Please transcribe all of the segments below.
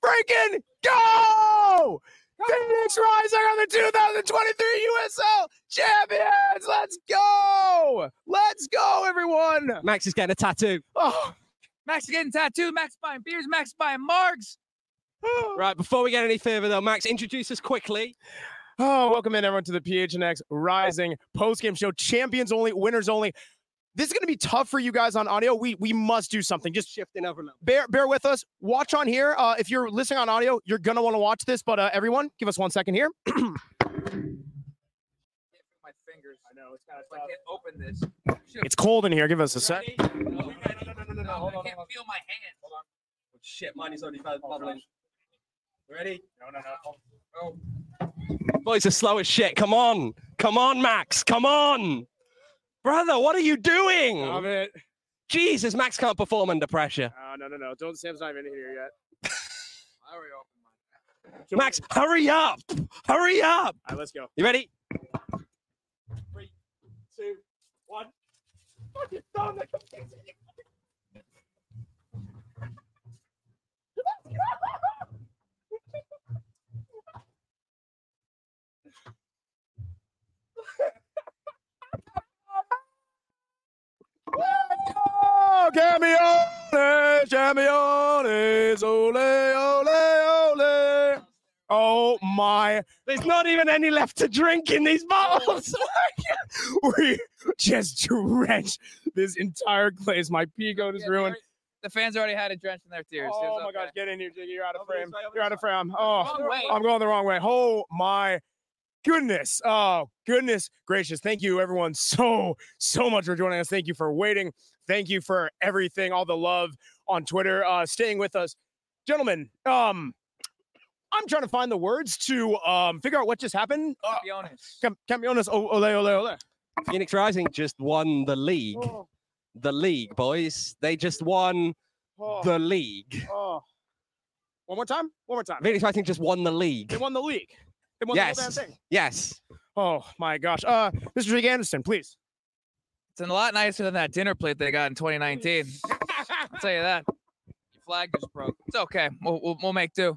freaking go! Phoenix Rising are the 2023 USL champions! Let's go! Let's go, everyone! Max is getting a tattoo. Oh, Max is getting tattooed. Max buying beers. Max buying margs. Right, before we get any further, though, Max, introduce us quickly. oh, welcome in, everyone, to the PHNX Rising post-game show. Champions only, winners only. This is going to be tough for you guys on audio. We must do something. Just Shifting over now. bear with us. Watch on here. If you're listening on audio, you're going to want to watch this. But everyone, give us 1 second here. My fingers. I know it's kind of. I can't open this. It's cold in here. Give us a sec. No, I can't feel my hand. Hold on. Oh, shit, mine is already bubbling. Ready? Oh, Boys are slow as shit. Come on. Come on, Max. Come on. Brother, what are you doing? Stop it. Jesus, Max can't perform under pressure. No. Don't. Sam's not even in here yet. I already opened mine. Max, hurry up. Hurry up. All right, let's go. You ready? 3, 2, 1. Fucking thumb. Camiones, ole, ole, ole. Oh my. There's not even any left to drink in these bottles. We just drenched this entire place. My pee goat is ruined. The fans already had it drenched in their tears. Oh It's my okay. gosh, get in here, Jiggy. You're out of Over frame. this way, over You're out this of frame. Wrong Oh, way. I'm going the wrong way. Oh my goodness. Oh, goodness gracious. Thank you, everyone, so much for joining us. Thank you for waiting. Thank you for everything, all the love on Twitter, staying with us. Gentlemen, I'm trying to find the words to figure out what just happened. Campeones. Campeones, ole, ole, ole. Phoenix Rising just won the league. Oh, The league, boys. They just won oh, the league. oh. One more time? One more time. Phoenix Rising just won the league. They won the league. They won the whole damn Yes. thing. Yes. Oh my gosh. Mr. Jake Anderson, please. It's a lot nicer than that dinner plate they got in 2019. I'll tell you that. Your flag just broke. It's okay. We'll make do.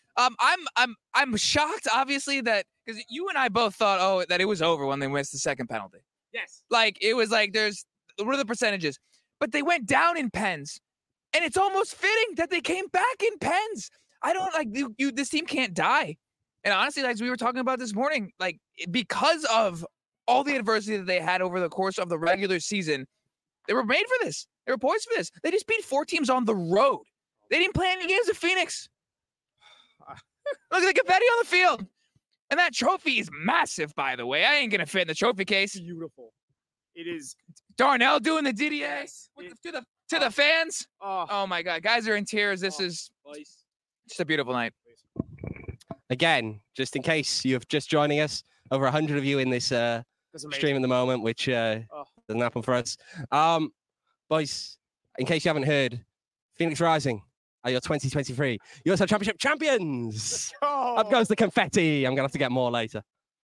I'm shocked, obviously, that because you and I both thought, that it was over when they missed the second penalty. Yes. Like it was like what are the percentages? But they went down in pens, and it's almost fitting that they came back in pens. I don't like you. This team can't die. And honestly, like we were talking about this morning, like because of all the adversity that they had over the course of the regular season, they were made for this. They were poised for this. They just beat 4 teams on the road. They didn't play any games at Phoenix. Look at the confetti on the field. And that trophy is massive, by the way. I ain't going to fit in the trophy case. Beautiful. It is. Darnell doing the DDA Yes, to the fans. Oh, Oh, my God. Guys are in tears. This Oh. is just a beautiful night. Again, just in case you're just joining us, over 100 of you in this that's amazing. stream at the moment, which doesn't happen for us. Boys, in case you haven't heard, Phoenix Rising are your 2023 USL Championship champions. Oh. Up goes the confetti. I'm going to have to get more later.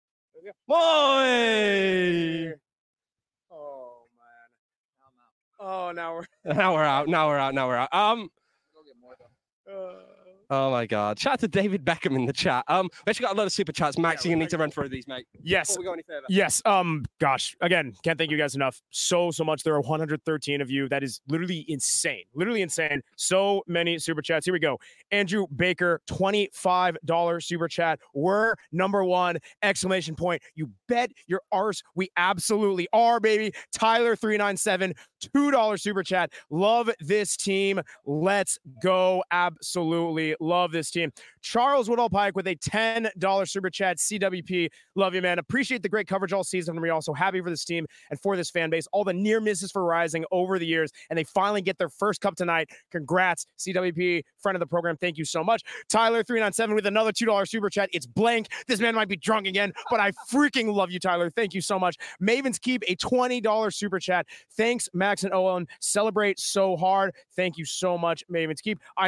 Boy! Oh man. Oh, now we're. Now we're out. Now we're out. Now we're out. Uh, Oh my God! Shout out to David Beckham in the chat. We actually got a lot of super chats. Max, Yeah, you're we gonna need to run through these, mate. yes. Before we go any further. Yes. Gosh. Again, can't thank you guys enough. So much. There are 113 of you. That is literally insane. Literally insane. So many super chats. Here we go. Andrew Baker, $25 super chat. We're number one! Exclamation point. You bet your arse we absolutely are, baby. Tyler 397, $2 super chat. Love this team. Let's go. Absolutely love this team. Charles Woodall Pike with a $10 super chat. CWP, love you, man. Appreciate the great coverage all season. And we're also happy for this team and for this fan base. All the near misses for Rising over the years, and they finally get their first cup tonight. Congrats, CWP, friend of the program. Thank you so much. Tyler 397 with another $2 super chat. It's blank. This man might be drunk again, but I freaking love you, Tyler. Thank you so much. Maven's Keep, a $20 super chat. Thanks, Max and Owen. Celebrate so hard. Thank you so much, Maven's Keep. I'm literally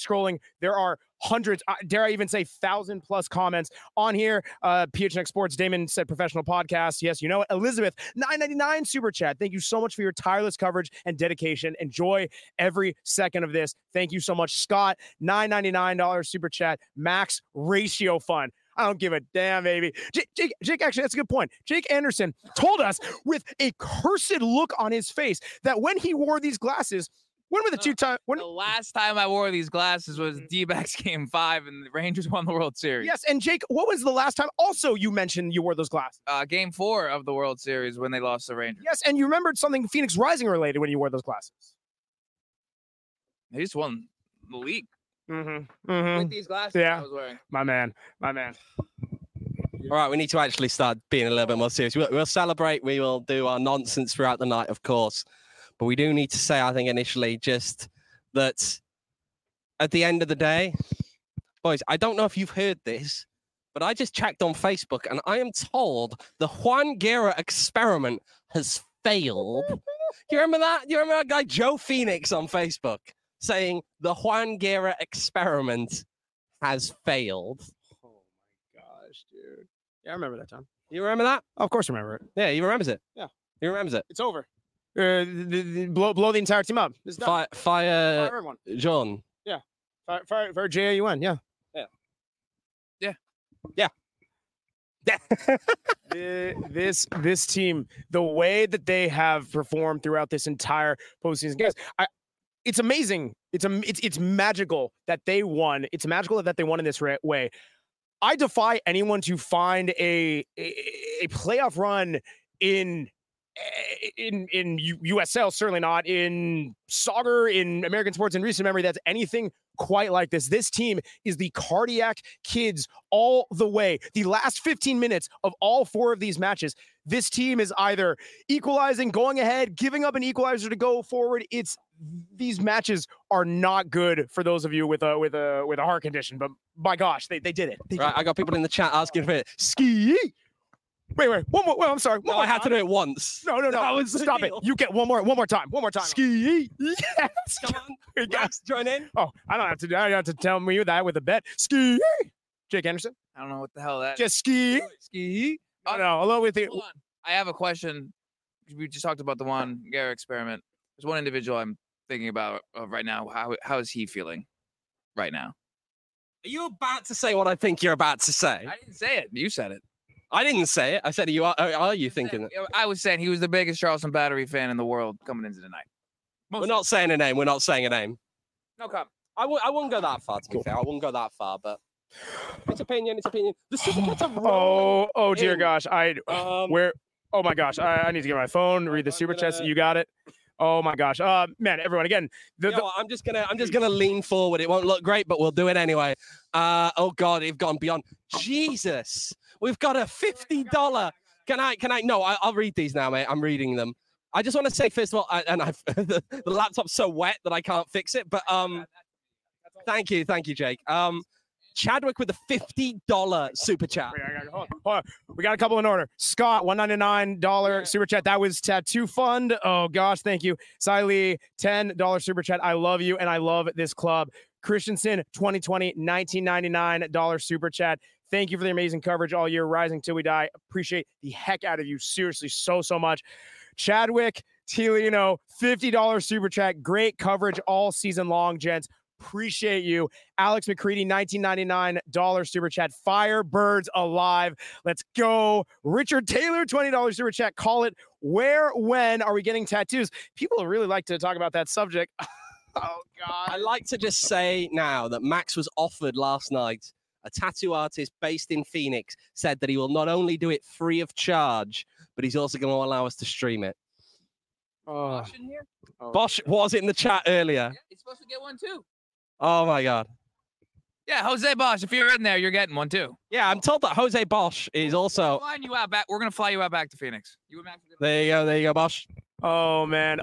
scrolling, there are hundreds, dare I even say 1,000+ comments on here. PHNX Sports, Damon said professional podcast. Yes, you know it. Elizabeth, $9.99 super chat. Thank you so much for your tireless coverage and dedication. Enjoy every second of this. Thank you so much. Scott, $9.99 super chat. Max Ratio Fund. I don't give a damn, baby. Jake, actually, that's a good point. Jake Anderson told us with a cursed look on his face that when he wore these glasses, when were the two times? The last time I wore these glasses was D-backs Game 5, and the Rangers won the World Series. Yes, and Jake, what was the last time also you mentioned you wore those glasses? Game 4 of the World Series when they lost the Rangers. Yes, and you remembered something Phoenix Rising related when you wore those glasses. They just won the league. With these glasses Yeah. I was wearing. My man. All right, we need to actually start being a little bit more serious. We'll celebrate. We will do our nonsense throughout the night, of course. But we do need to say, I think, initially, just that at the end of the day, boys, I don't know if you've heard this, but I just checked on Facebook and I am told the Juan Guerra experiment has failed. Do you remember that? Do you remember that guy, Joe Phoenix, on Facebook saying the Juan Guerra experiment has failed? Oh my gosh, dude. Yeah, I remember that time. You remember that? Of course I remember it. Yeah, he remembers it. Yeah. He remembers it. It's over. Blow the entire team up. It's done. Fire Fire everyone. John. Fire JAUN, yeah. This team, the way that they have performed throughout this entire postseason, guys, it's amazing. It's magical that they won. It's magical that they won in this way. I defy anyone to find a playoff run in USL, certainly not in soccer, in American sports in recent memory, that's anything quite like this. This team is the cardiac kids all the way. The last 15 minutes of all 4 of these matches, this team is either equalizing, going ahead, giving up an equalizer to go forward. These matches are not good for those of you with a heart condition, but my gosh, they did it. Right, I got people in the chat asking for it. Ski. Wait, one more. Well, I'm sorry. No, I had to do it once. No. Stop it. You get one more time. One more time. Ski. Yes. Come on. Max, join in. Oh, I don't have to tell me that with a bet. Ski. Jake Anderson. I don't know what the hell that Just ski. Ski. Oh, no, along with Hold on. I have a question. We just talked about the Juan Guerra experiment. There's one individual I'm thinking about right now. How is he feeling right now? Are you about to say what I think you're about to say? I didn't say it. You said it. I didn't say it. I said, are you thinking it? I was saying he was the biggest Charleston Battery fan in the world coming into the night. We're not saying a name. We're not saying a name. No comment. I wouldn't go that far, to be fair. I wouldn't go that far, but it's opinion. The Supercats are rolling. Oh dear gosh. Oh my gosh. I need to get my phone, read the super chats. You got it. Oh my gosh. Man, everyone, again. I'm just gonna lean forward. It won't look great, but we'll do it anyway. Oh God, they've gone beyond. Jesus. We've got a $50. Can I? No, I'll read these now, mate. I'm reading them. I just want to say, first of all, the laptop's so wet that I can't fix it. But thank you, Jake. Chadwick with a $50 super chat. Hold on. We got a couple in order. Scott, $199 super chat. That was Tattoo Fund. Oh gosh, thank you. Siley, $10 super chat. I love you and I love this club. Christensen, 2020, $19.99 super chat. Thank you for the amazing coverage all year. Rising till we die. Appreciate the heck out of you. Seriously, so much. Chadwick, Tilino, $50 super chat. Great coverage all season long, gents. Appreciate you. Alex McCready, $19.99 super chat. Firebirds alive. Let's go. Richard Taylor, $20 super chat. Call it. Where, when are we getting tattoos? People really like to talk about that subject. Oh, God. I like to just say now that Max was offered last night. A tattoo artist based in Phoenix said that he will not only do it free of charge, but he's also going to allow us to stream it. Bosch in here? Bosch was in the chat earlier. Yeah, he's supposed to get one too. Oh my God. Yeah, Jose Bosch. If you're in there, you're getting one too. Yeah, I'm told that Jose Bosch is also. We're going to fly you out back to Phoenix. You and Max. There you go, Bosch. Oh man.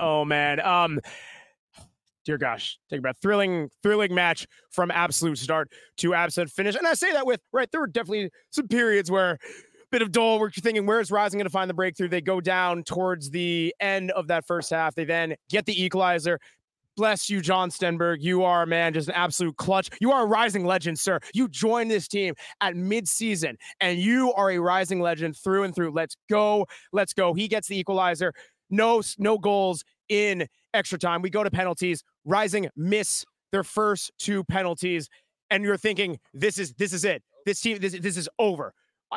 Dear gosh, take a breath. Thrilling match from absolute start to absolute finish. And I say that there were definitely some periods where a bit of dull, where you're thinking, where's Rising going to find the breakthrough? They go down towards the end of that first half. They then get the equalizer. Bless you, John Stenberg. You are, man, just an absolute clutch. You are a rising legend, sir. You joined this team at midseason, and you are a rising legend through and through. Let's go. Let's go. He gets the equalizer. No goals in extra time. We go to penalties. Rising miss their first 2 penalties, and you're thinking, this is it. This team, this is over.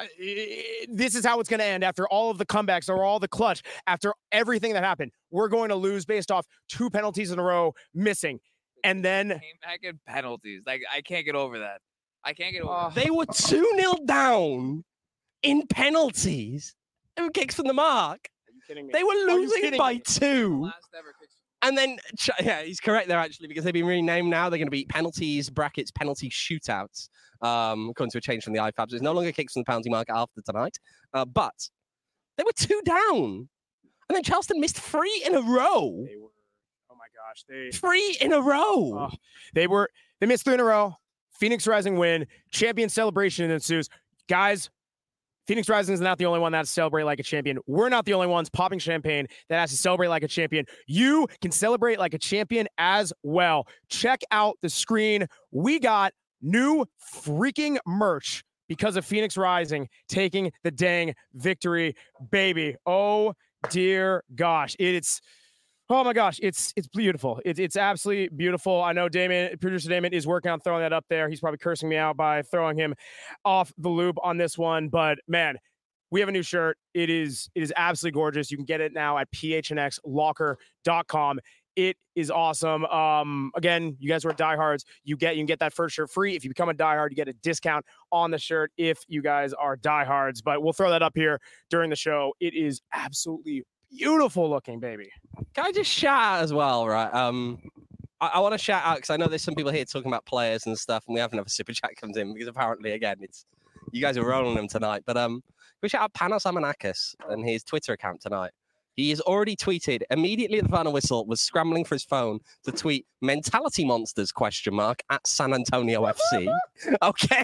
This is how it's going to end after all of the comebacks or all the clutch, after everything that happened. We're going to lose based off 2 penalties in a row missing. And then came back in penalties. Like, I can't get over that. I can't get over that. They were 2-0 down in penalties and kicks from the mark. Are you kidding me? They were losing by me? 2. Last ever kicks. And then, yeah, he's correct there, actually, because they've been renamed now. They're going to be penalties, brackets, penalty shootouts, according to a change from the IFAB. So it's no longer kicks from the penalty mark after tonight. But they were 2 down. And then Charleston missed 3 in a row. They were, oh my gosh. 3 in a row. They missed 3 in a row. Phoenix Rising win. Champion celebration ensues. Guys, Phoenix Rising is not the only one that has to celebrate like a champion. We're not the only ones popping champagne that has to celebrate like a champion. You can celebrate like a champion as well. Check out the screen. We got new freaking merch because of Phoenix Rising taking the dang victory, baby. Oh, dear gosh. Oh my gosh, it's beautiful. It's absolutely beautiful. I know producer Damon is working on throwing that up there. He's probably cursing me out by throwing him off the loop on this one. But man, we have a new shirt. It is absolutely gorgeous. You can get it now at phnxlocker.com. It is awesome. Again, you guys who are diehards, you can get that first shirt free. If you become a diehard, you get a discount on the shirt if you guys are diehards. But we'll throw that up here during the show. It is absolutely beautiful looking, baby. Can I just shout out as well, right? I want to shout out because I know there's some people here talking about players and stuff, and we have another super chat comes in because apparently, again, it's you guys are rolling them tonight. But we shout out Panos Amanakis and his Twitter account tonight. He has already tweeted immediately at the final whistle, was scrambling for his phone to tweet mentality monsters ? At San Antonio FC. Okay.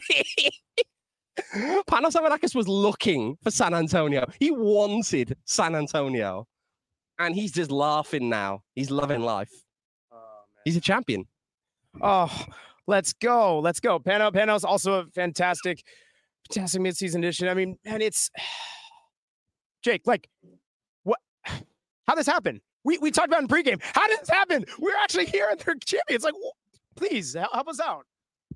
Panos Amanakis was looking for San Antonio. He wanted San Antonio. And he's just laughing now. He's loving life. He's a champion. Oh, let's go. Let's go. Panos, also a fantastic midseason edition. I mean, man, it's Jake, like, what? How this happen? We talked about in pregame. How did this happen? We're actually here and they're champions. Like, please help us out.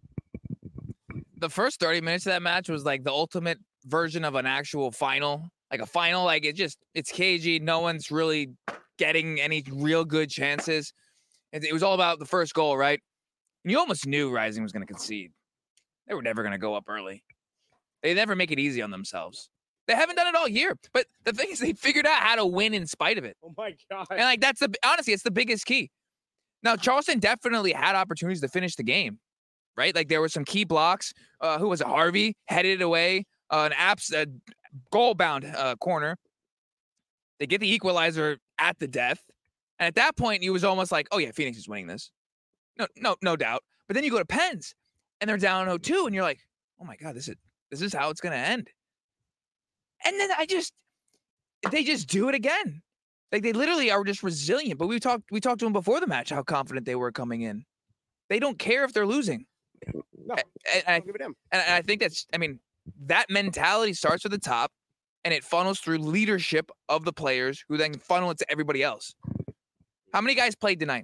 The first 30 minutes of that match was like the ultimate version of an actual final. Like a final, like it's cagey. No one's really getting any real good chances. It was all about the first goal, right? And you almost knew Rising was going to concede. They were never going to go up early. They never make it easy on themselves. They haven't done it all year. But the thing is, they figured out how to win in spite of it. Oh my God. And like honestly, it's the biggest key. Now, Charleston definitely had opportunities to finish the game. Right? Like there were some key blocks. Who was it? Harvey headed it away. A goal-bound corner. They get the equalizer at the death. And at that point, it was almost like, oh yeah, Phoenix is winning this. No doubt. But then you go to Pens and they're down 0-2 and you're like, oh my God, this is how it's going to end. And then they just do it again. Like they literally are just resilient. But we talked to them before the match, how confident they were coming in. They don't care if they're losing. No, and I think that mentality starts at the top and it funnels through leadership of the players who then funnel it to everybody else. How many guys played tonight?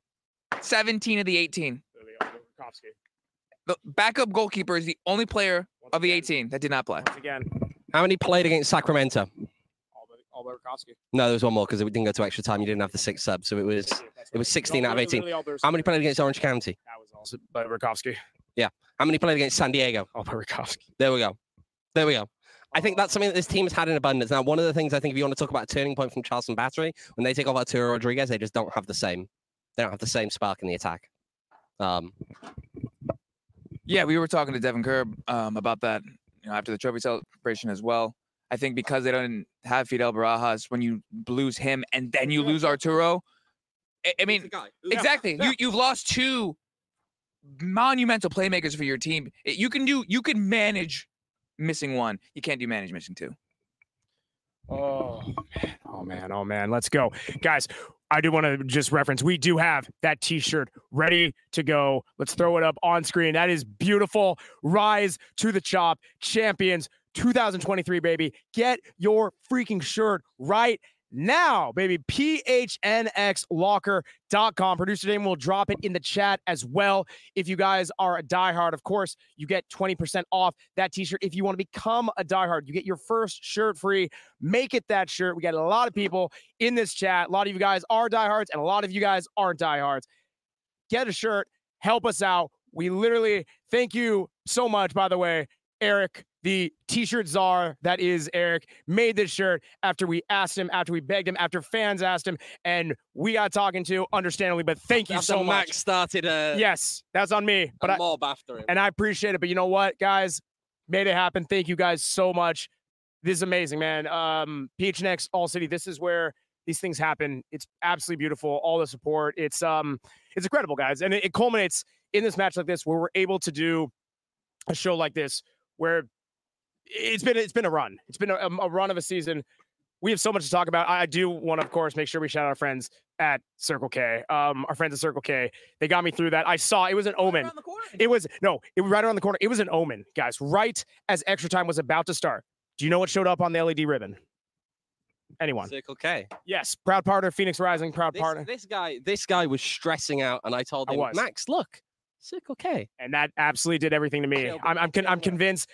17 of the 18. The backup goalkeeper is the only player of the 18 that did not play. Again. How many played against Sacramento? All but Rakowski. No, there was one more because it didn't go to extra time. You didn't have the 6 subs, so it was 16 out of 18. How many played against Orange County? That was also by Rakowski. Yeah. How many played against San Diego? All by Rakowski. There we go. I think that's something that this team has had in abundance. Now, one of the things I think if you want to talk about a turning point from Charleston Battery, when they take off Arturo Rodriguez, they just don't have the same. They don't have the same spark in the attack. Yeah, we were talking to Devin Kerr about that, after the trophy celebration as well. I think because they don't have Fidel Barajas, when you lose him and then you lose Arturo, I mean, exactly. Yeah. You've lost 2 monumental playmakers for your team. You can manage missing 1. You can't manage missing 2. Oh man. Let's go. Guys, I do want to just reference, we do have that t-shirt ready to go. Let's throw it up on screen. That is beautiful. Rise to the Chop Champions 2023, baby. Get your freaking shirt right now, baby. PHNXLocker.com. Producer Damon will drop it in the chat as well. If you guys are a diehard, of course, you get 20% off that t-shirt. If you want to become a diehard, you get your first shirt free. Make it that shirt. We got a lot of people in this chat. A lot of you guys are diehards, and a lot of you guys aren't diehards. Get a shirt. Help us out. We literally thank you so much, by the way, Eric, the t-shirt czar that is Eric, made this shirt after we asked him, after we begged him, after fans asked him, and we got talking to, understandably, but thank you so much. Max started yes, that's on me. But mob after him. And I appreciate it. But you know what, guys? Made it happen. Thank you guys so much. This is amazing, man. PHNX All City, this is where these things happen. It's absolutely beautiful. All the support. It's incredible, guys. And it culminates in this match like this, where we're able to do a show like this, where it's been a run. It's been a run of a season. We have so much to talk about. I do want to, of course, make sure we shout out our friends at Circle K. Our friends at Circle K. They got me through that. I saw it was an omen. It was right around the corner. It was an omen, guys. Right as extra time was about to start. Do you know what showed up on the LED ribbon? Anyone? Circle K. Yes, proud partner, Phoenix Rising, proud partner. This guy was stressing out, and I told him, Max, look. Circle K, and that absolutely did everything to me. I'm convinced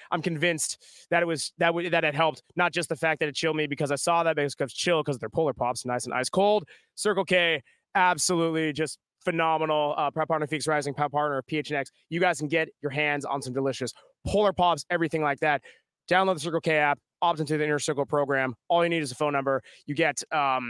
that it helped. Not just the fact that it chilled me because I saw that, because chill because their Polar Pops nice and ice cold. Circle K, absolutely just phenomenal. Proud partner Phoenix Rising, proud partner of PHNX. You guys can get your hands on some delicious Polar Pops, everything like that. Download the Circle K app, opt into the Inner Circle program. All you need is a phone number. You get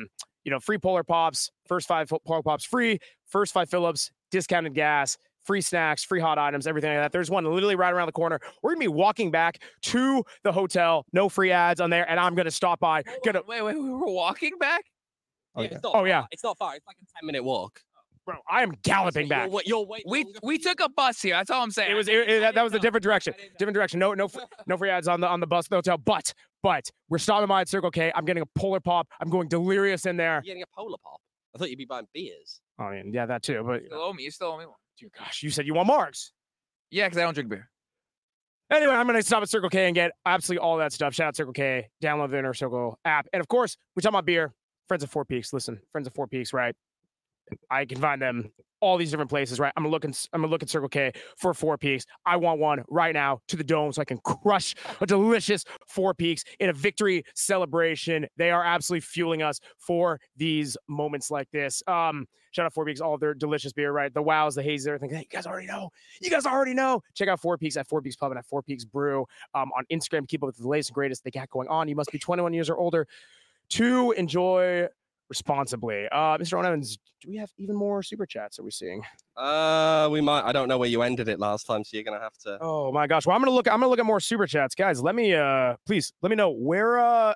free Polar Pops, first 5 Polar Pops free, first 5 fill-ups, discounted gas, free snacks, free hot items, everything like that. There's one literally right around the corner. We're going to be walking back to the hotel. No free ads on there. And I'm going to stop by. Wait, we're walking back? Yeah, yeah. It's not far. It's like a 10-minute walk. Bro, I am galloping back. We took a bus here. That's all I'm saying. That was a different direction. Different direction. No free ads on the bus, the hotel. But we're stopping by at Circle K. I'm getting a Polar Pop. I'm going delirious in there. You're getting a Polar Pop? I thought you'd be buying beers. I mean, yeah, that too. But you still owe me one. Dear gosh, you said you want marks. Yeah, because I don't drink beer. Anyway, I'm going to stop at Circle K and get absolutely all that stuff. Shout out Circle K. Download the Inner Circle app. And of course, we talk about beer. Friends of Four Peaks. Listen, Friends of Four Peaks, right? I can find them all these different places, right? I'm gonna look at Circle K for Four Peaks. I want one right now to the dome so I can crush a delicious Four Peaks in a victory celebration. They are absolutely fueling us for these moments like this. Shout out Four Peaks, all of their delicious beer, right? The wows, the hazes, everything. Hey, you guys already know. Check out Four Peaks at Four Peaks Pub and at Four Peaks Brew on Instagram. Keep up with the latest and greatest they got going on. You must be 21 years or older to enjoy responsibly. Mr. Ron Evans, do we have even more super chats? Are we seeing? We might. I don't know where you ended it last time, so you're gonna have to. Oh my gosh. Well, I'm gonna look at more super chats, guys. Let me please let me know where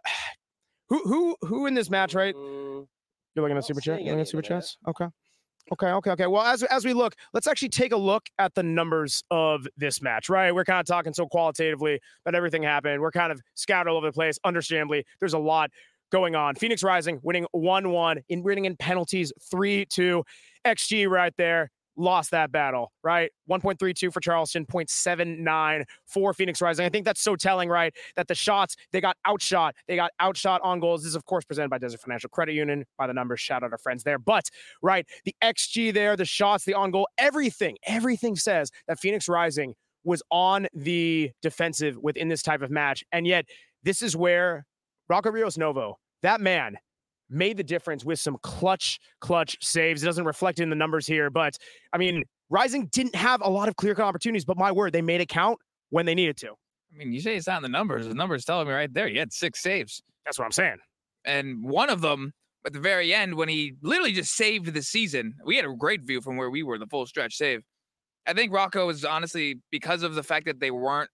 who in this match, right? You're looking at super chat. You're looking at super chats. Okay. Well, as we look, let's actually take a look at the numbers of this match, right? We're kind of talking so qualitatively about everything happened. We're kind of scattered all over the place. Understandably, there's a lot going on. Phoenix Rising winning 1-1, winning in penalties 3-2. XG right there. Lost that battle, right? 1.32 for Charleston, 0.79 for Phoenix Rising. I think that's so telling, right? That the shots, they got outshot. They got outshot on goals. This is, of course, presented by Desert Financial Credit Union. By the numbers, shout out our friends there. But, right, the XG there, the shots, the on goal, everything says that Phoenix Rising was on the defensive within this type of match. And yet, this is where Rocco Rios Novo, that man, made the difference with some clutch saves. It doesn't reflect in the numbers here, but I mean, Rising didn't have a lot of clear-cut opportunities, but my word, they made it count when they needed to. I mean, you say it's not in the numbers. The numbers telling me right there. He had 6 saves. That's what I'm saying. And one of them, at the very end, when he literally just saved the season, we had a great view from where we were, the full stretch save. I think Rocco was honestly, because of the fact that they weren't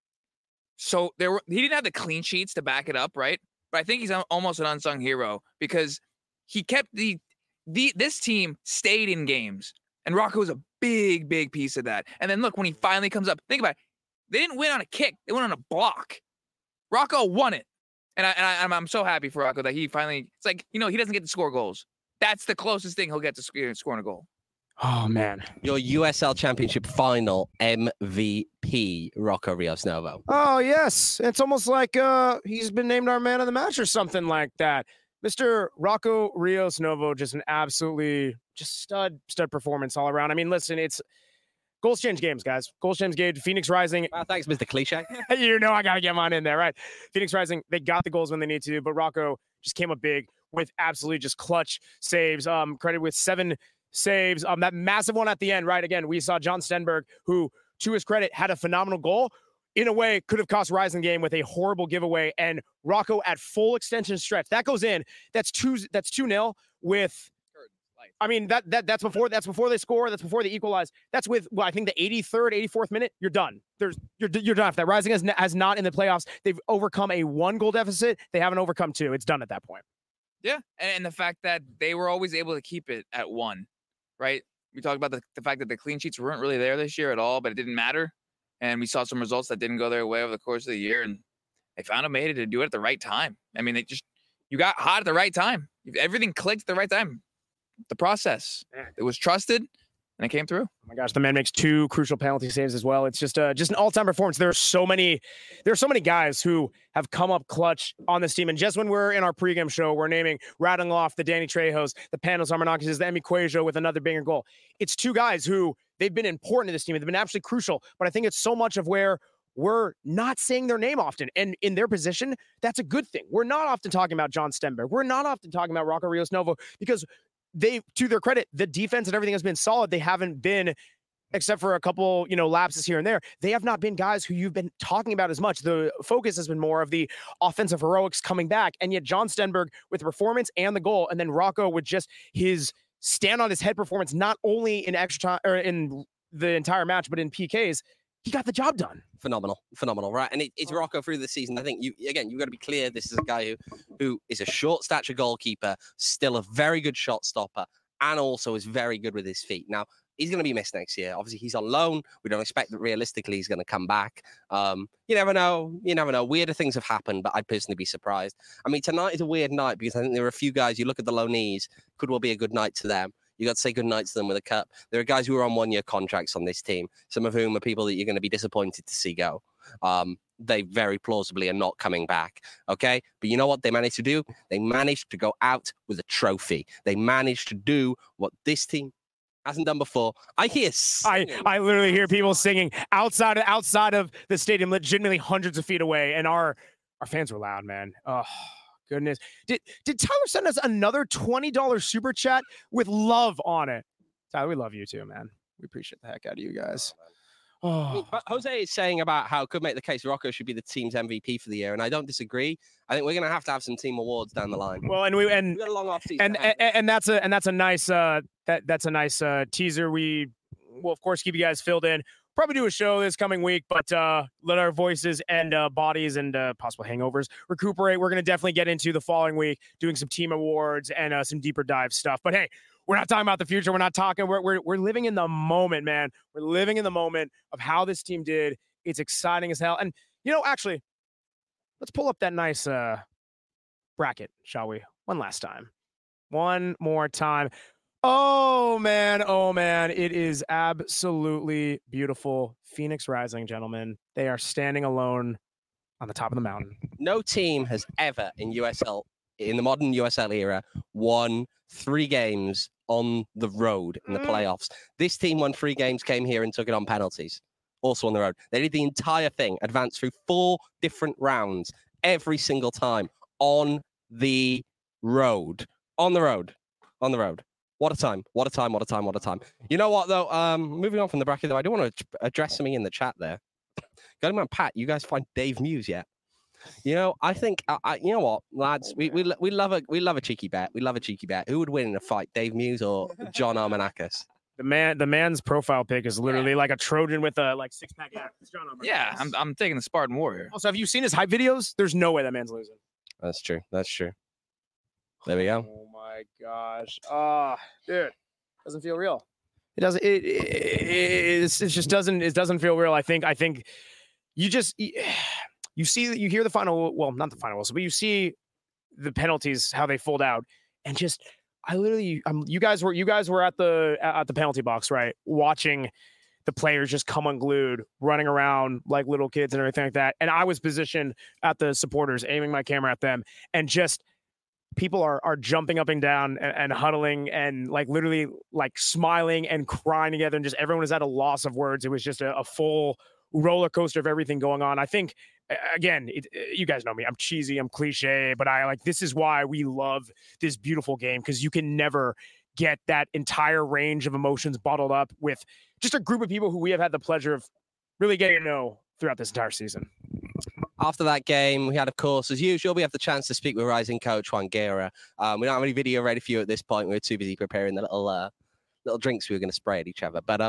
he didn't have the clean sheets to back it up, right? But I think he's almost an unsung hero because he kept this team stayed in games, and Rocco was a big piece of that. And then look, when he finally comes up, think about it. They didn't win on a kick; they went on a block. Rocco won it, and I'm so happy for Rocco that he finally. It's like, he doesn't get to score goals, That's the closest thing he'll get to scoring a goal. Oh, man. Your USL Championship final MVP, Rocco Rios Novo. Oh, yes. It's almost like he's been named our man of the match or something like that. Mr. Rocco Rios Novo, just an absolutely just stud performance all around. I mean, listen, it's goals change games, guys. Goals change games. Phoenix Rising. Thanks, Mr. Cliche. You know I got to get mine in there, right? Phoenix Rising, they got the goals when they need to, but Rocco just came up big with absolutely just clutch saves. Credit with 7 saves. That massive one at the end, right? Again, we saw John Stenberg, who, to his credit, had a phenomenal goal. In a way, could have cost Rising the game with a horrible giveaway. And Rocco at full extension stretch. That goes in. That's 2-0 with. I mean, that's before they score. That's before they equalize. That's with, well, I think the 83rd, 84th minute. You're done. You're done. If that Rising has not in the playoffs, they've overcome a 1-goal deficit. They haven't overcome 2. It's done at that point. Yeah, and the fact that they were always able to keep it at 1, right? We talked about the fact that the clean sheets weren't really there this year at all, but it didn't matter. And we saw some results that didn't go their way over the course of the year, and they found a way to do it at the right time. I mean, you got hot at the right time. Everything clicked at the right time. The process, it was trusted, and it came through. Oh my gosh, the man makes 2 crucial penalty saves as well. It's just an all-time performance. There are so many guys who have come up clutch on this team. And just when we're in our pregame show, we're rattling off the Danny Trejos, the Panos Armanakises, the Emi Cuejo with another banger goal. It's 2 guys who they've been important to this team. They've been absolutely crucial. But I think it's so much of where we're not saying their name often. And in their position, that's a good thing. We're not often talking about John Stenberg. We're not often talking about Rocco Rios Novo because they, to their credit, the defense and everything has been solid. They haven't been, except for a couple, lapses here and there, they have not been guys who you've been talking about as much. The focus has been more of the offensive heroics coming back. And yet John Stenberg with the performance and the goal, and then Rocco with just his stand on his head performance, not only in extra time or in the entire match, but in PKs, he got the job done. Phenomenal, right? And it's Rocco through the season. I think you've got to be clear. This is a guy who is a short stature goalkeeper, still a very good shot stopper, and also is very good with his feet. Now, he's going to be missed next year. Obviously, he's on loan. We don't expect that realistically he's going to come back. You never know. Weirder things have happened, but I'd personally be surprised. I mean, tonight is a weird night because I think there are a few guys, you look at the loanees, could well be a good night to them. You got to say goodnight to them with a cup. There are guys who are on 1-year contracts on this team, some of whom are people that you're going to be disappointed to see go. They very plausibly are not coming back, okay? But you know what they managed to do? They managed to go out with a trophy. They managed to do what this team hasn't done before. I literally hear people singing outside of the stadium, legitimately hundreds of feet away, and our fans were loud, man. Oh. Goodness. Did Tyler send us another $20 super chat with love on it? Tyler, we love you too, man. We appreciate the heck out of you guys. Oh. Jose is saying about how could make the case Rocco should be the team's MVP for the year, and I don't disagree. I think we're going to have some team awards down the line. Well, and we got a long off season, and that's a nice that's a nice teaser. We will of course keep you guys filled in. Probably do a show this coming week, but let our voices and bodies and possible hangovers recuperate. We're going to definitely get into the following week doing some team awards and some deeper dive stuff. But hey, we're not talking about the future. We're not talking. We're living in the moment, man. We're living in the moment of how this team did. It's exciting as hell. And actually, let's pull up that nice bracket, shall we? One last time. One more time. Oh man, it is absolutely beautiful. Phoenix Rising, gentlemen. They are standing alone on the top of the mountain. No team has ever in the modern USL era, won 3 games on the road in the playoffs. This team won 3 games, came here and took it on penalties. Also on the road. They did the entire thing, advanced through 4 different rounds every single time on the road. On the road. What a time. You know what, though? Moving on from the bracket, though, I do want to address something in the chat there. Going on, Pat, you guys find Dave Muse yet? I think, you know what, lads? We love a cheeky bet. We love a cheeky bet. Who would win in a fight, Dave Muse or John Armanakis? The man's profile pic is literally like a Trojan with a 6-pack app. It's John Armanakis. Yeah, I'm taking the Spartan Warrior. Also, have you seen his hype videos? There's no way that man's losing. That's true. There we go. Oh my gosh. Dude. Doesn't feel real. It doesn't it just doesn't feel real. I think you hear the final, well, not the final whistle, but you see the penalties, how they fold out, and just I literally, you guys were at the penalty box, right? Watching the players just come unglued, running around like little kids and everything like that. And I was positioned at the supporters, aiming my camera at them, and just people are jumping up and down and huddling and like literally like smiling and crying together, and just everyone is at a loss of words. It was just a full roller coaster of everything going on. I think, again, you guys know me. I'm cheesy, I'm cliche, but this is why we love this beautiful game, because you can never get that entire range of emotions bottled up with just a group of people who we have had the pleasure of really getting to know throughout this entire season. After that game, we had, of course, as usual, we have the chance to speak with rising coach Juan Guerra. We don't have any video ready for you at this point. We were too busy preparing the little drinks we were going to spray at each other. But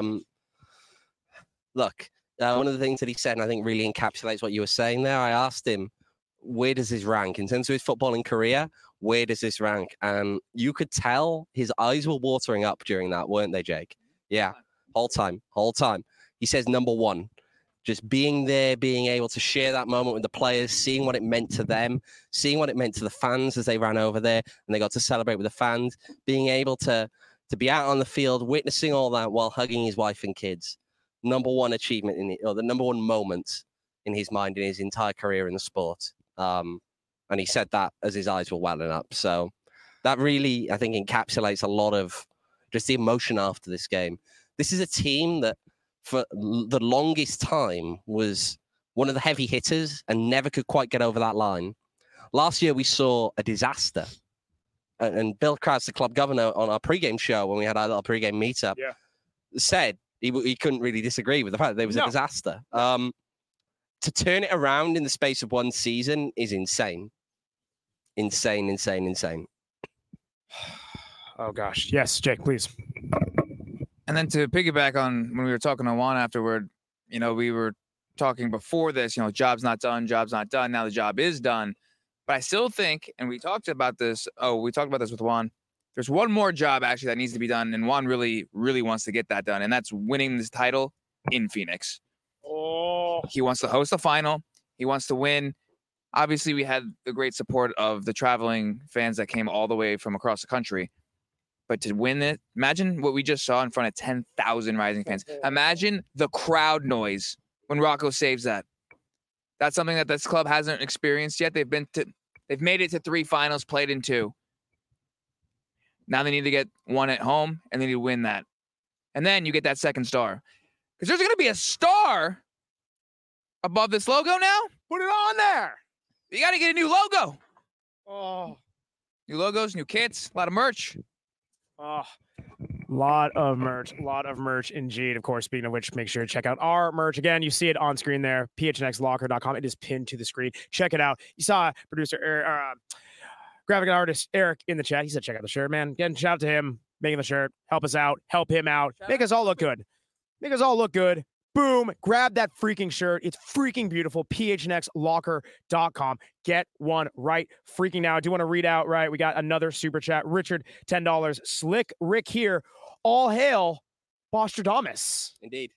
look, one of the things that he said, and I think really encapsulates what you were saying there, I asked him, where does this rank? In terms of his footballing career, where does this rank? And you could tell his eyes were watering up during that, weren't they, Jake? Yeah, whole time. He says number one. Just being there, being able to share that moment with the players, seeing what it meant to them, seeing what it meant to the fans as they ran over there and they got to celebrate with the fans, being able to be out on the field, witnessing all that while hugging his wife and kids. Number one achievement or the number one moment in his mind in his entire career in the sport. And he said that as his eyes were welling up. So that really, I think, encapsulates a lot of just the emotion after this game. This is a team that, for the longest time, was one of the heavy hitters and never could quite get over that line. Last year, we saw a disaster. And Bill Krause, the club governor, on our pregame show, when we had our little pregame meetup, said he couldn't really disagree with the fact that there was a disaster. To turn it around in the space of one season is insane. Insane. Oh, gosh. Yes, Jake, please. And then to piggyback on when we were talking to Juan afterward, we were talking before this, job's not done. Now the job is done. But I still think, and we talked about this with Juan, there's one more job actually that needs to be done. And Juan really, really wants to get that done. And that's winning this title in Phoenix. Oh. He wants to host the final. He wants to win. Obviously, we had the great support of the traveling fans that came all the way from across the country. But to win it, imagine what we just saw in front of 10,000 Rising fans. Imagine the crowd noise when Rocco saves that. That's something that this club hasn't experienced yet. They've made it to 3 finals, played in 2. Now they need to get 1 at home, and they need to win that. And then you get that second star. Because there's going to be a star above this logo now. Put it on there. You got to get a new logo. Oh. New logos, new kits, a lot of merch. Oh, lot of merch indeed. Of course, speaking of which, make sure to check out our merch. Again, you see it on screen there, phnxlocker.com. It is pinned to the screen. Check it out. You saw producer, graphic artist Eric in the chat. He said, check out the shirt, man. Again, shout out to him, making the shirt. Help us out. Help him out. Make us all look good. Boom. Grab that freaking shirt. It's freaking beautiful. phnxlocker.com. Get one right freaking now. I do want to read out, right? We got another super chat. Richard, $10. Slick Rick here. All hail Bostradamus. Indeed.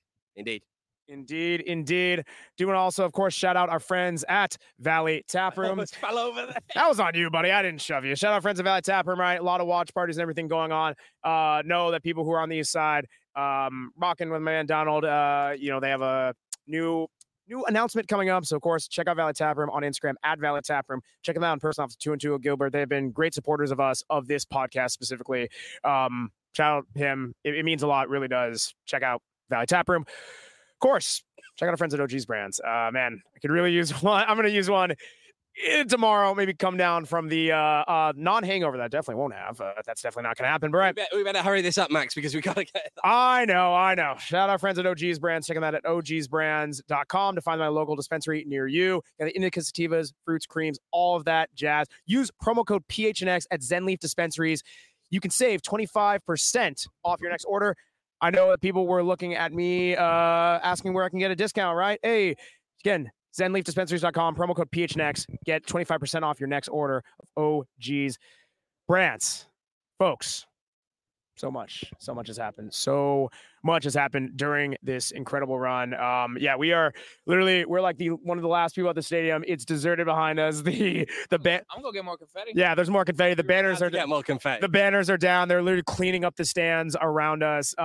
Do want to also, of course, shout out our friends at Valley Taproom. Almost fell over there. That was on you, buddy. I didn't shove you. Shout out friends at Valley Taproom, right? A lot of watch parties and everything going on. Know that people who are on the east side, rocking with my man Donald, they have a new announcement coming up. So, of course, check out Valley Taproom on Instagram, at Valley Taproom. Check them out in person off the 2 and 2 of Gilbert. They've been great supporters of us, of this podcast specifically. Shout out him. It means a lot. It really does. Check out Valley Taproom. Of course, check out our friends at OG's Brands. Man, I could really use one. I'm going to use one tomorrow. Maybe come down from the non-hangover that I definitely won't have. That's definitely not going to happen. But right, we better hurry this up, Max, because we got to get. I know. Shout out our friends at OG's Brands. Check them out at ogsbrands.com to find my local dispensary near you. Got the indica sativas, fruits, creams, all of that jazz. Use promo code PHNX at Zenleaf Dispensaries. You can save 25% off your next order. I know that people were looking at me asking where I can get a discount, right? Hey, again, ZenleafDispensaries.com, promo code PHNX. Get 25% off your next order of OG's Brands. Folks, So much has happened. So much has happened during this incredible run. We're like one of the last people at the stadium. It's deserted behind us. The band. I'm gonna go get more confetti. Yeah, there's more confetti. The banners are more confetti. The banners are down. They're literally cleaning up the stands around us.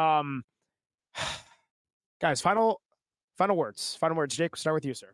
Guys, final words. Final words. Jake, we'll start with you, sir.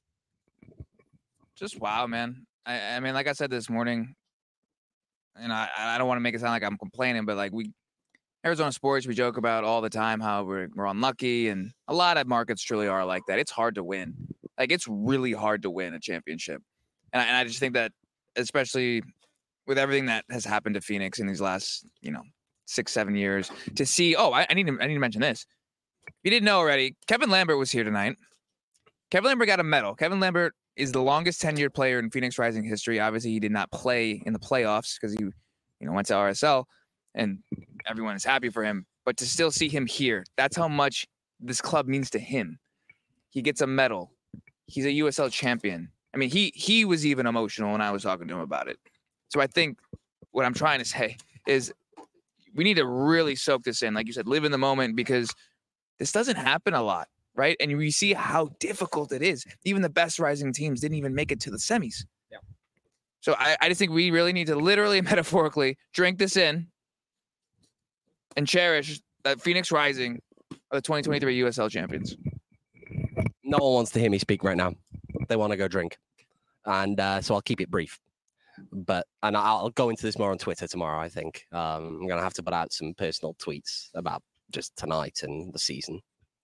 Just wow, man. I mean, like I said this morning, and I don't want to make it sound like I'm complaining, but like Arizona sports, we joke about all the time how we're unlucky, and a lot of markets truly are like that. It's hard to win. Like, it's really hard to win a championship. And I just think that, especially with everything that has happened to Phoenix in these last, 6-7 years, to see, I need to mention this. If you didn't know already, Kevin Lambert was here tonight. Kevin Lambert got a medal. Kevin Lambert is the longest tenured player in Phoenix Rising history. Obviously, he did not play in the playoffs because he, went to RSL, and everyone is happy for him. But to still see him here, that's how much this club means to him. He gets a medal. He's a USL champion. I mean, he was even emotional when I was talking to him about it. So I think what I'm trying to say is we need to really soak this in. Like you said, live in the moment, because this doesn't happen a lot, right? And we see how difficult it is. Even the best Rising teams didn't even make it to the semis. Yeah. So I just think we really need to literally, metaphorically, drink this in and cherish that Phoenix Rising are the 2023 USL champions. No one wants to hear me speak right now. They want to go drink. And so I'll keep it brief. And I'll go into this more on Twitter tomorrow, I think. I'm going to have to put out some personal tweets about just tonight and the season.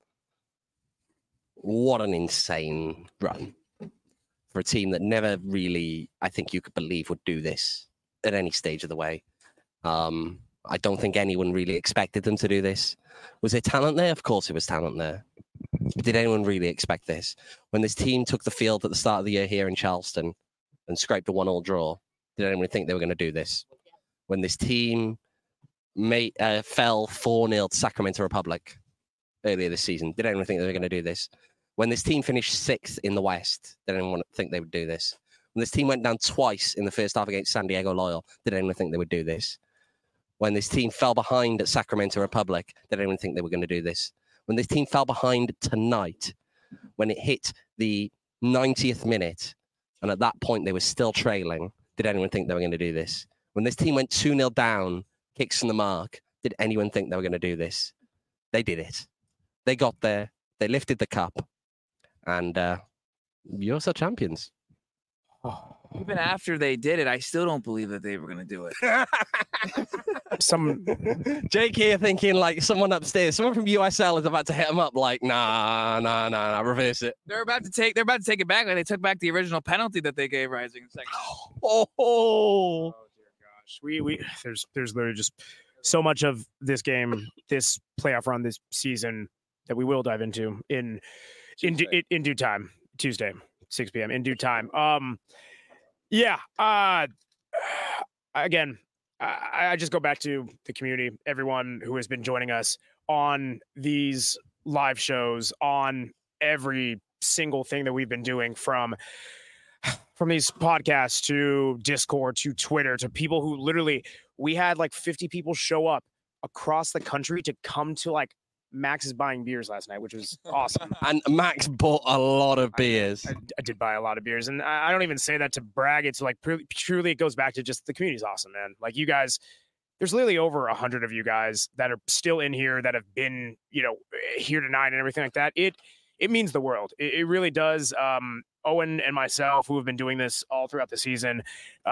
What an insane run for a team that never really, I think you could believe, would do this at any stage of the way. I don't think anyone really expected them to do this. Was there talent there? Of course there was talent there. But did anyone really expect this? When this team took the field at the start of the year here in Charleston and scraped a 1-1 draw, did anyone think they were going to do this? When this team fell 4-0 to Sacramento Republic earlier this season, did anyone think they were going to do this? When this team finished 6th in the West, did anyone think they would do this? When this team went down twice in the first half against San Diego Loyal, did anyone think they would do this? When this team fell behind at Sacramento Republic, did anyone think they were going to do this? When this team fell behind tonight, when it hit the 90th minute, and at that point they were still trailing, did anyone think they were going to do this? When this team went 2-0 down, kicks from the mark, did anyone think they were going to do this? They did it. They got there. They lifted the cup. And you're so champions. Even after they did it, I still don't believe that they were going to do it. Jake here thinking like someone upstairs, someone from USL is about to hit him up like, nah, reverse it. They're about to take it back. Like they took back the original penalty that they gave Rising in second. Oh dear gosh. We there's literally just so much of this game, this playoff run this season that we will dive into in due time. Tuesday, 6 p.m. in due time. Again, I just go back to the community, everyone who has been joining us on these live shows, on every single thing that we've been doing, from these podcasts to Discord to Twitter to people who literally, we had like 50 people show up across the country to come to like Max is buying beers last night, which was awesome. And Max bought a lot of beers. I did buy a lot of beers, and I don't even say that to brag. It's like truly, it goes back to just the community's awesome, man. Like you guys, there's literally over 100 of you guys that are still in here that have been, here tonight and everything like that. It means the world. It really does. Owen and myself, who have been doing this all throughout the season,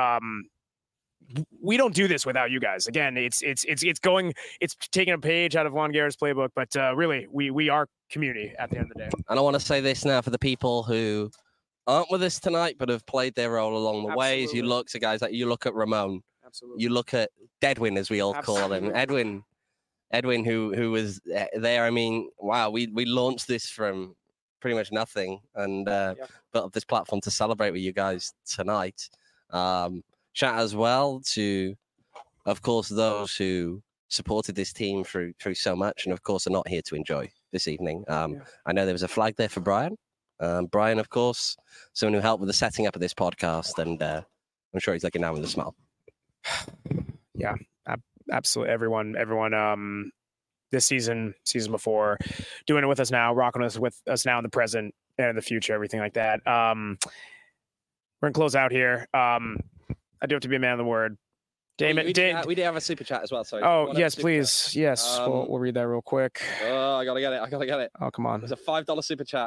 we don't do this without you guys. Again, it's taking a page out of Juan Guerra's playbook, but really, we are community at the end of the day. And I want to say this now for the people who aren't with us tonight, but have played their role along the way. As you look to guys like you look at Ramon, you look at Deadwin, as we all call him, Edwin, who was there. I mean, wow, we launched this from pretty much nothing and built up this platform to celebrate with you guys tonight. Shout as well to, of course, those who supported this team through so much and, of course, are not here to enjoy this evening. I know there was a flag there for Brian. Brian, of course, someone who helped with the setting up of this podcast, and I'm sure he's looking down with a smile. Yeah, absolutely everyone. This season before, doing it with us now, rocking us with us now in the present and in the future, everything like that. We're gonna close out here. I do have to be a man of the word. Damon, we did have a super chat as well. Sorry. Oh yes, please. Chat. Yes, we'll read that real quick. Oh, I gotta get it. Oh, come on. There's a $5 super chat.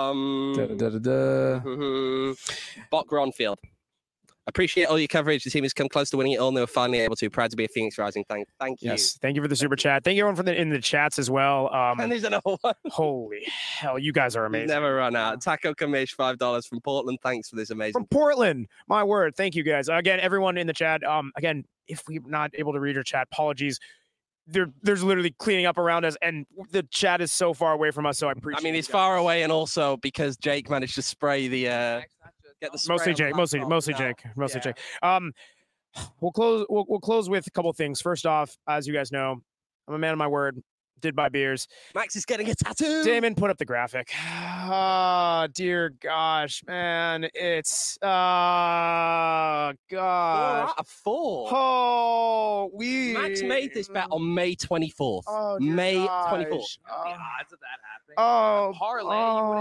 Bok Ronfield. Appreciate all your coverage. The team has come close to winning it all, and they were finally able to. Proud to be a Phoenix Rising. Thank you. Yes, thank you for the super chat. Thank you everyone in the chats as well. And there's another one. Holy hell, you guys are amazing. Never run out. Taco Kamish, $5 from Portland. Thanks for this amazing. From Portland, my word. Thank you guys again, everyone in the chat. Again, if we're not able to read your chat, apologies. There's literally cleaning up around us, and the chat is so far away from us. So I appreciate. I mean, it's far away, and also because Jake managed to spray the. Get the mostly Jake. Jake. We'll close with a couple of things. First off, as you guys know, I'm a man of my word. Did buy beers. Max is getting a tattoo. Damon, put up the graphic. Oh, dear gosh, man. It's God. 4 out of 4. Oh, Max made this bet on May 24th. Oh, May gosh. 24th. The odds of that happening. Oh, Parlay.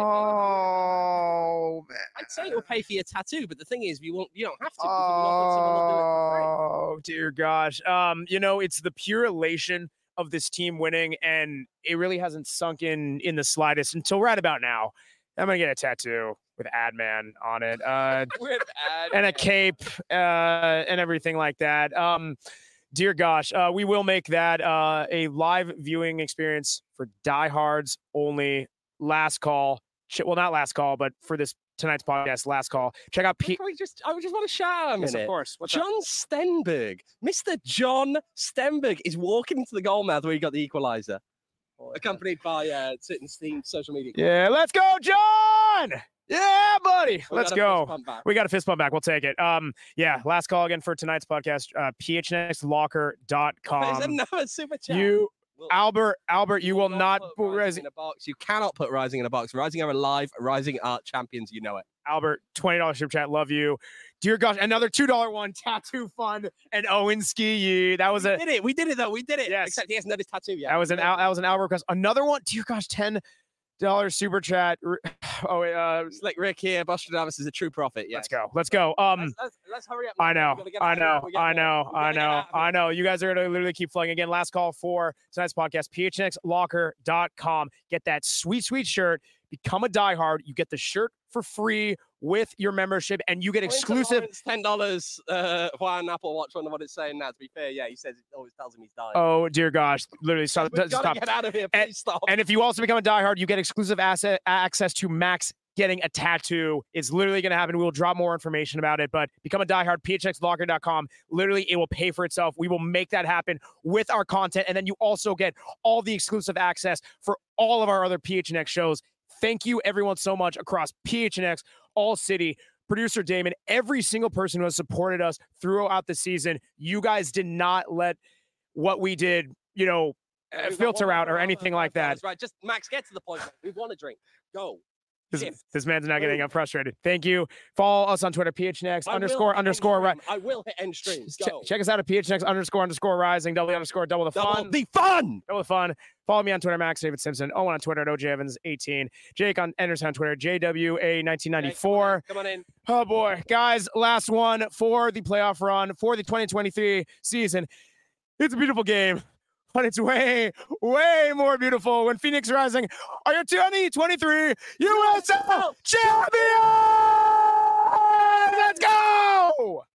Oh, man. I'd say it will pay for your tattoo, but the thing is, you don't have to. Because someone will do it for free. Oh, dear gosh. It's the pure elation of this team winning, and it really hasn't sunk in the slightest until right about now. I'm gonna get a tattoo with Adman on it, and a cape, and everything like that. Dear gosh, we will make that a live viewing experience for diehards only. Last call. Well, not last call, but for tonight's podcast, last call. Check out I just want to shout out a minute. Yes, of course. John Stenberg. Mr. John Stenberg is walking into the goal mouth where he got the equalizer. Accompanied by Sitton's team social media. Yeah, let's go, John! Yeah, buddy. Let's go. We got a fist bump back. We'll take it. Last call again for tonight's podcast. phnxlocker.com. There's another super chat. Albert, you will not put Rising in a box. You cannot put Rising in a box. Rising are alive. Rising are champions. You know it. Albert, $20 super chat. Love you. Dear gosh, another $2 one. Tattoo fund and Owen Ski. That was We did it though. We did it. Yes. Except he hasn't done his tattoo yet. That was an Albert request. Another one. Dear gosh, $10 super chat. Oh wait, it's like Rick here. Bostradamus is a true prophet. Yeah. Let's go. Let's hurry up. I know. You guys are gonna literally keep flowing again. Last call for tonight's podcast. phnxlocker.com. Get that sweet shirt. Become a diehard. You get the shirt for free with your membership, and you get exclusive. $10 for an Apple Watch. Wonder what it's saying now. To be fair, yeah, he says it always tells him he's dying. Oh dear gosh! Literally, stop. Get out of here! Please stop. And if you also become a diehard, you get exclusive access to Max getting a tattoo. It's literally going to happen. We will drop more information about it, but become a diehard. phnxlocker.com. Literally, it will pay for itself. We will make that happen with our content, and then you also get all the exclusive access for all of our other PHNX shows. Thank you, everyone, so much across PHNX, All City, producer Damon, every single person who has supported us throughout the season. You guys did not let what we did, filter out or anything like that. Right, just Max, get to the point. We want a drink. Go. This man's not getting frustrated. Thank you. Follow us on Twitter, PHNX __. I will hit end stream. Check us out at PHNX __ rising. Double the fun. Double the fun. Follow me on Twitter, Max David Simpson. Owen on Twitter at OJ Evans 18. Jake on Anderson on Twitter, JWA 1994. Come on in. Oh boy, guys, last one for the playoff run for the 2023 season. It's a beautiful game. But it's way, way more beautiful when Phoenix Rising are your 2023 USL champions! Let's go!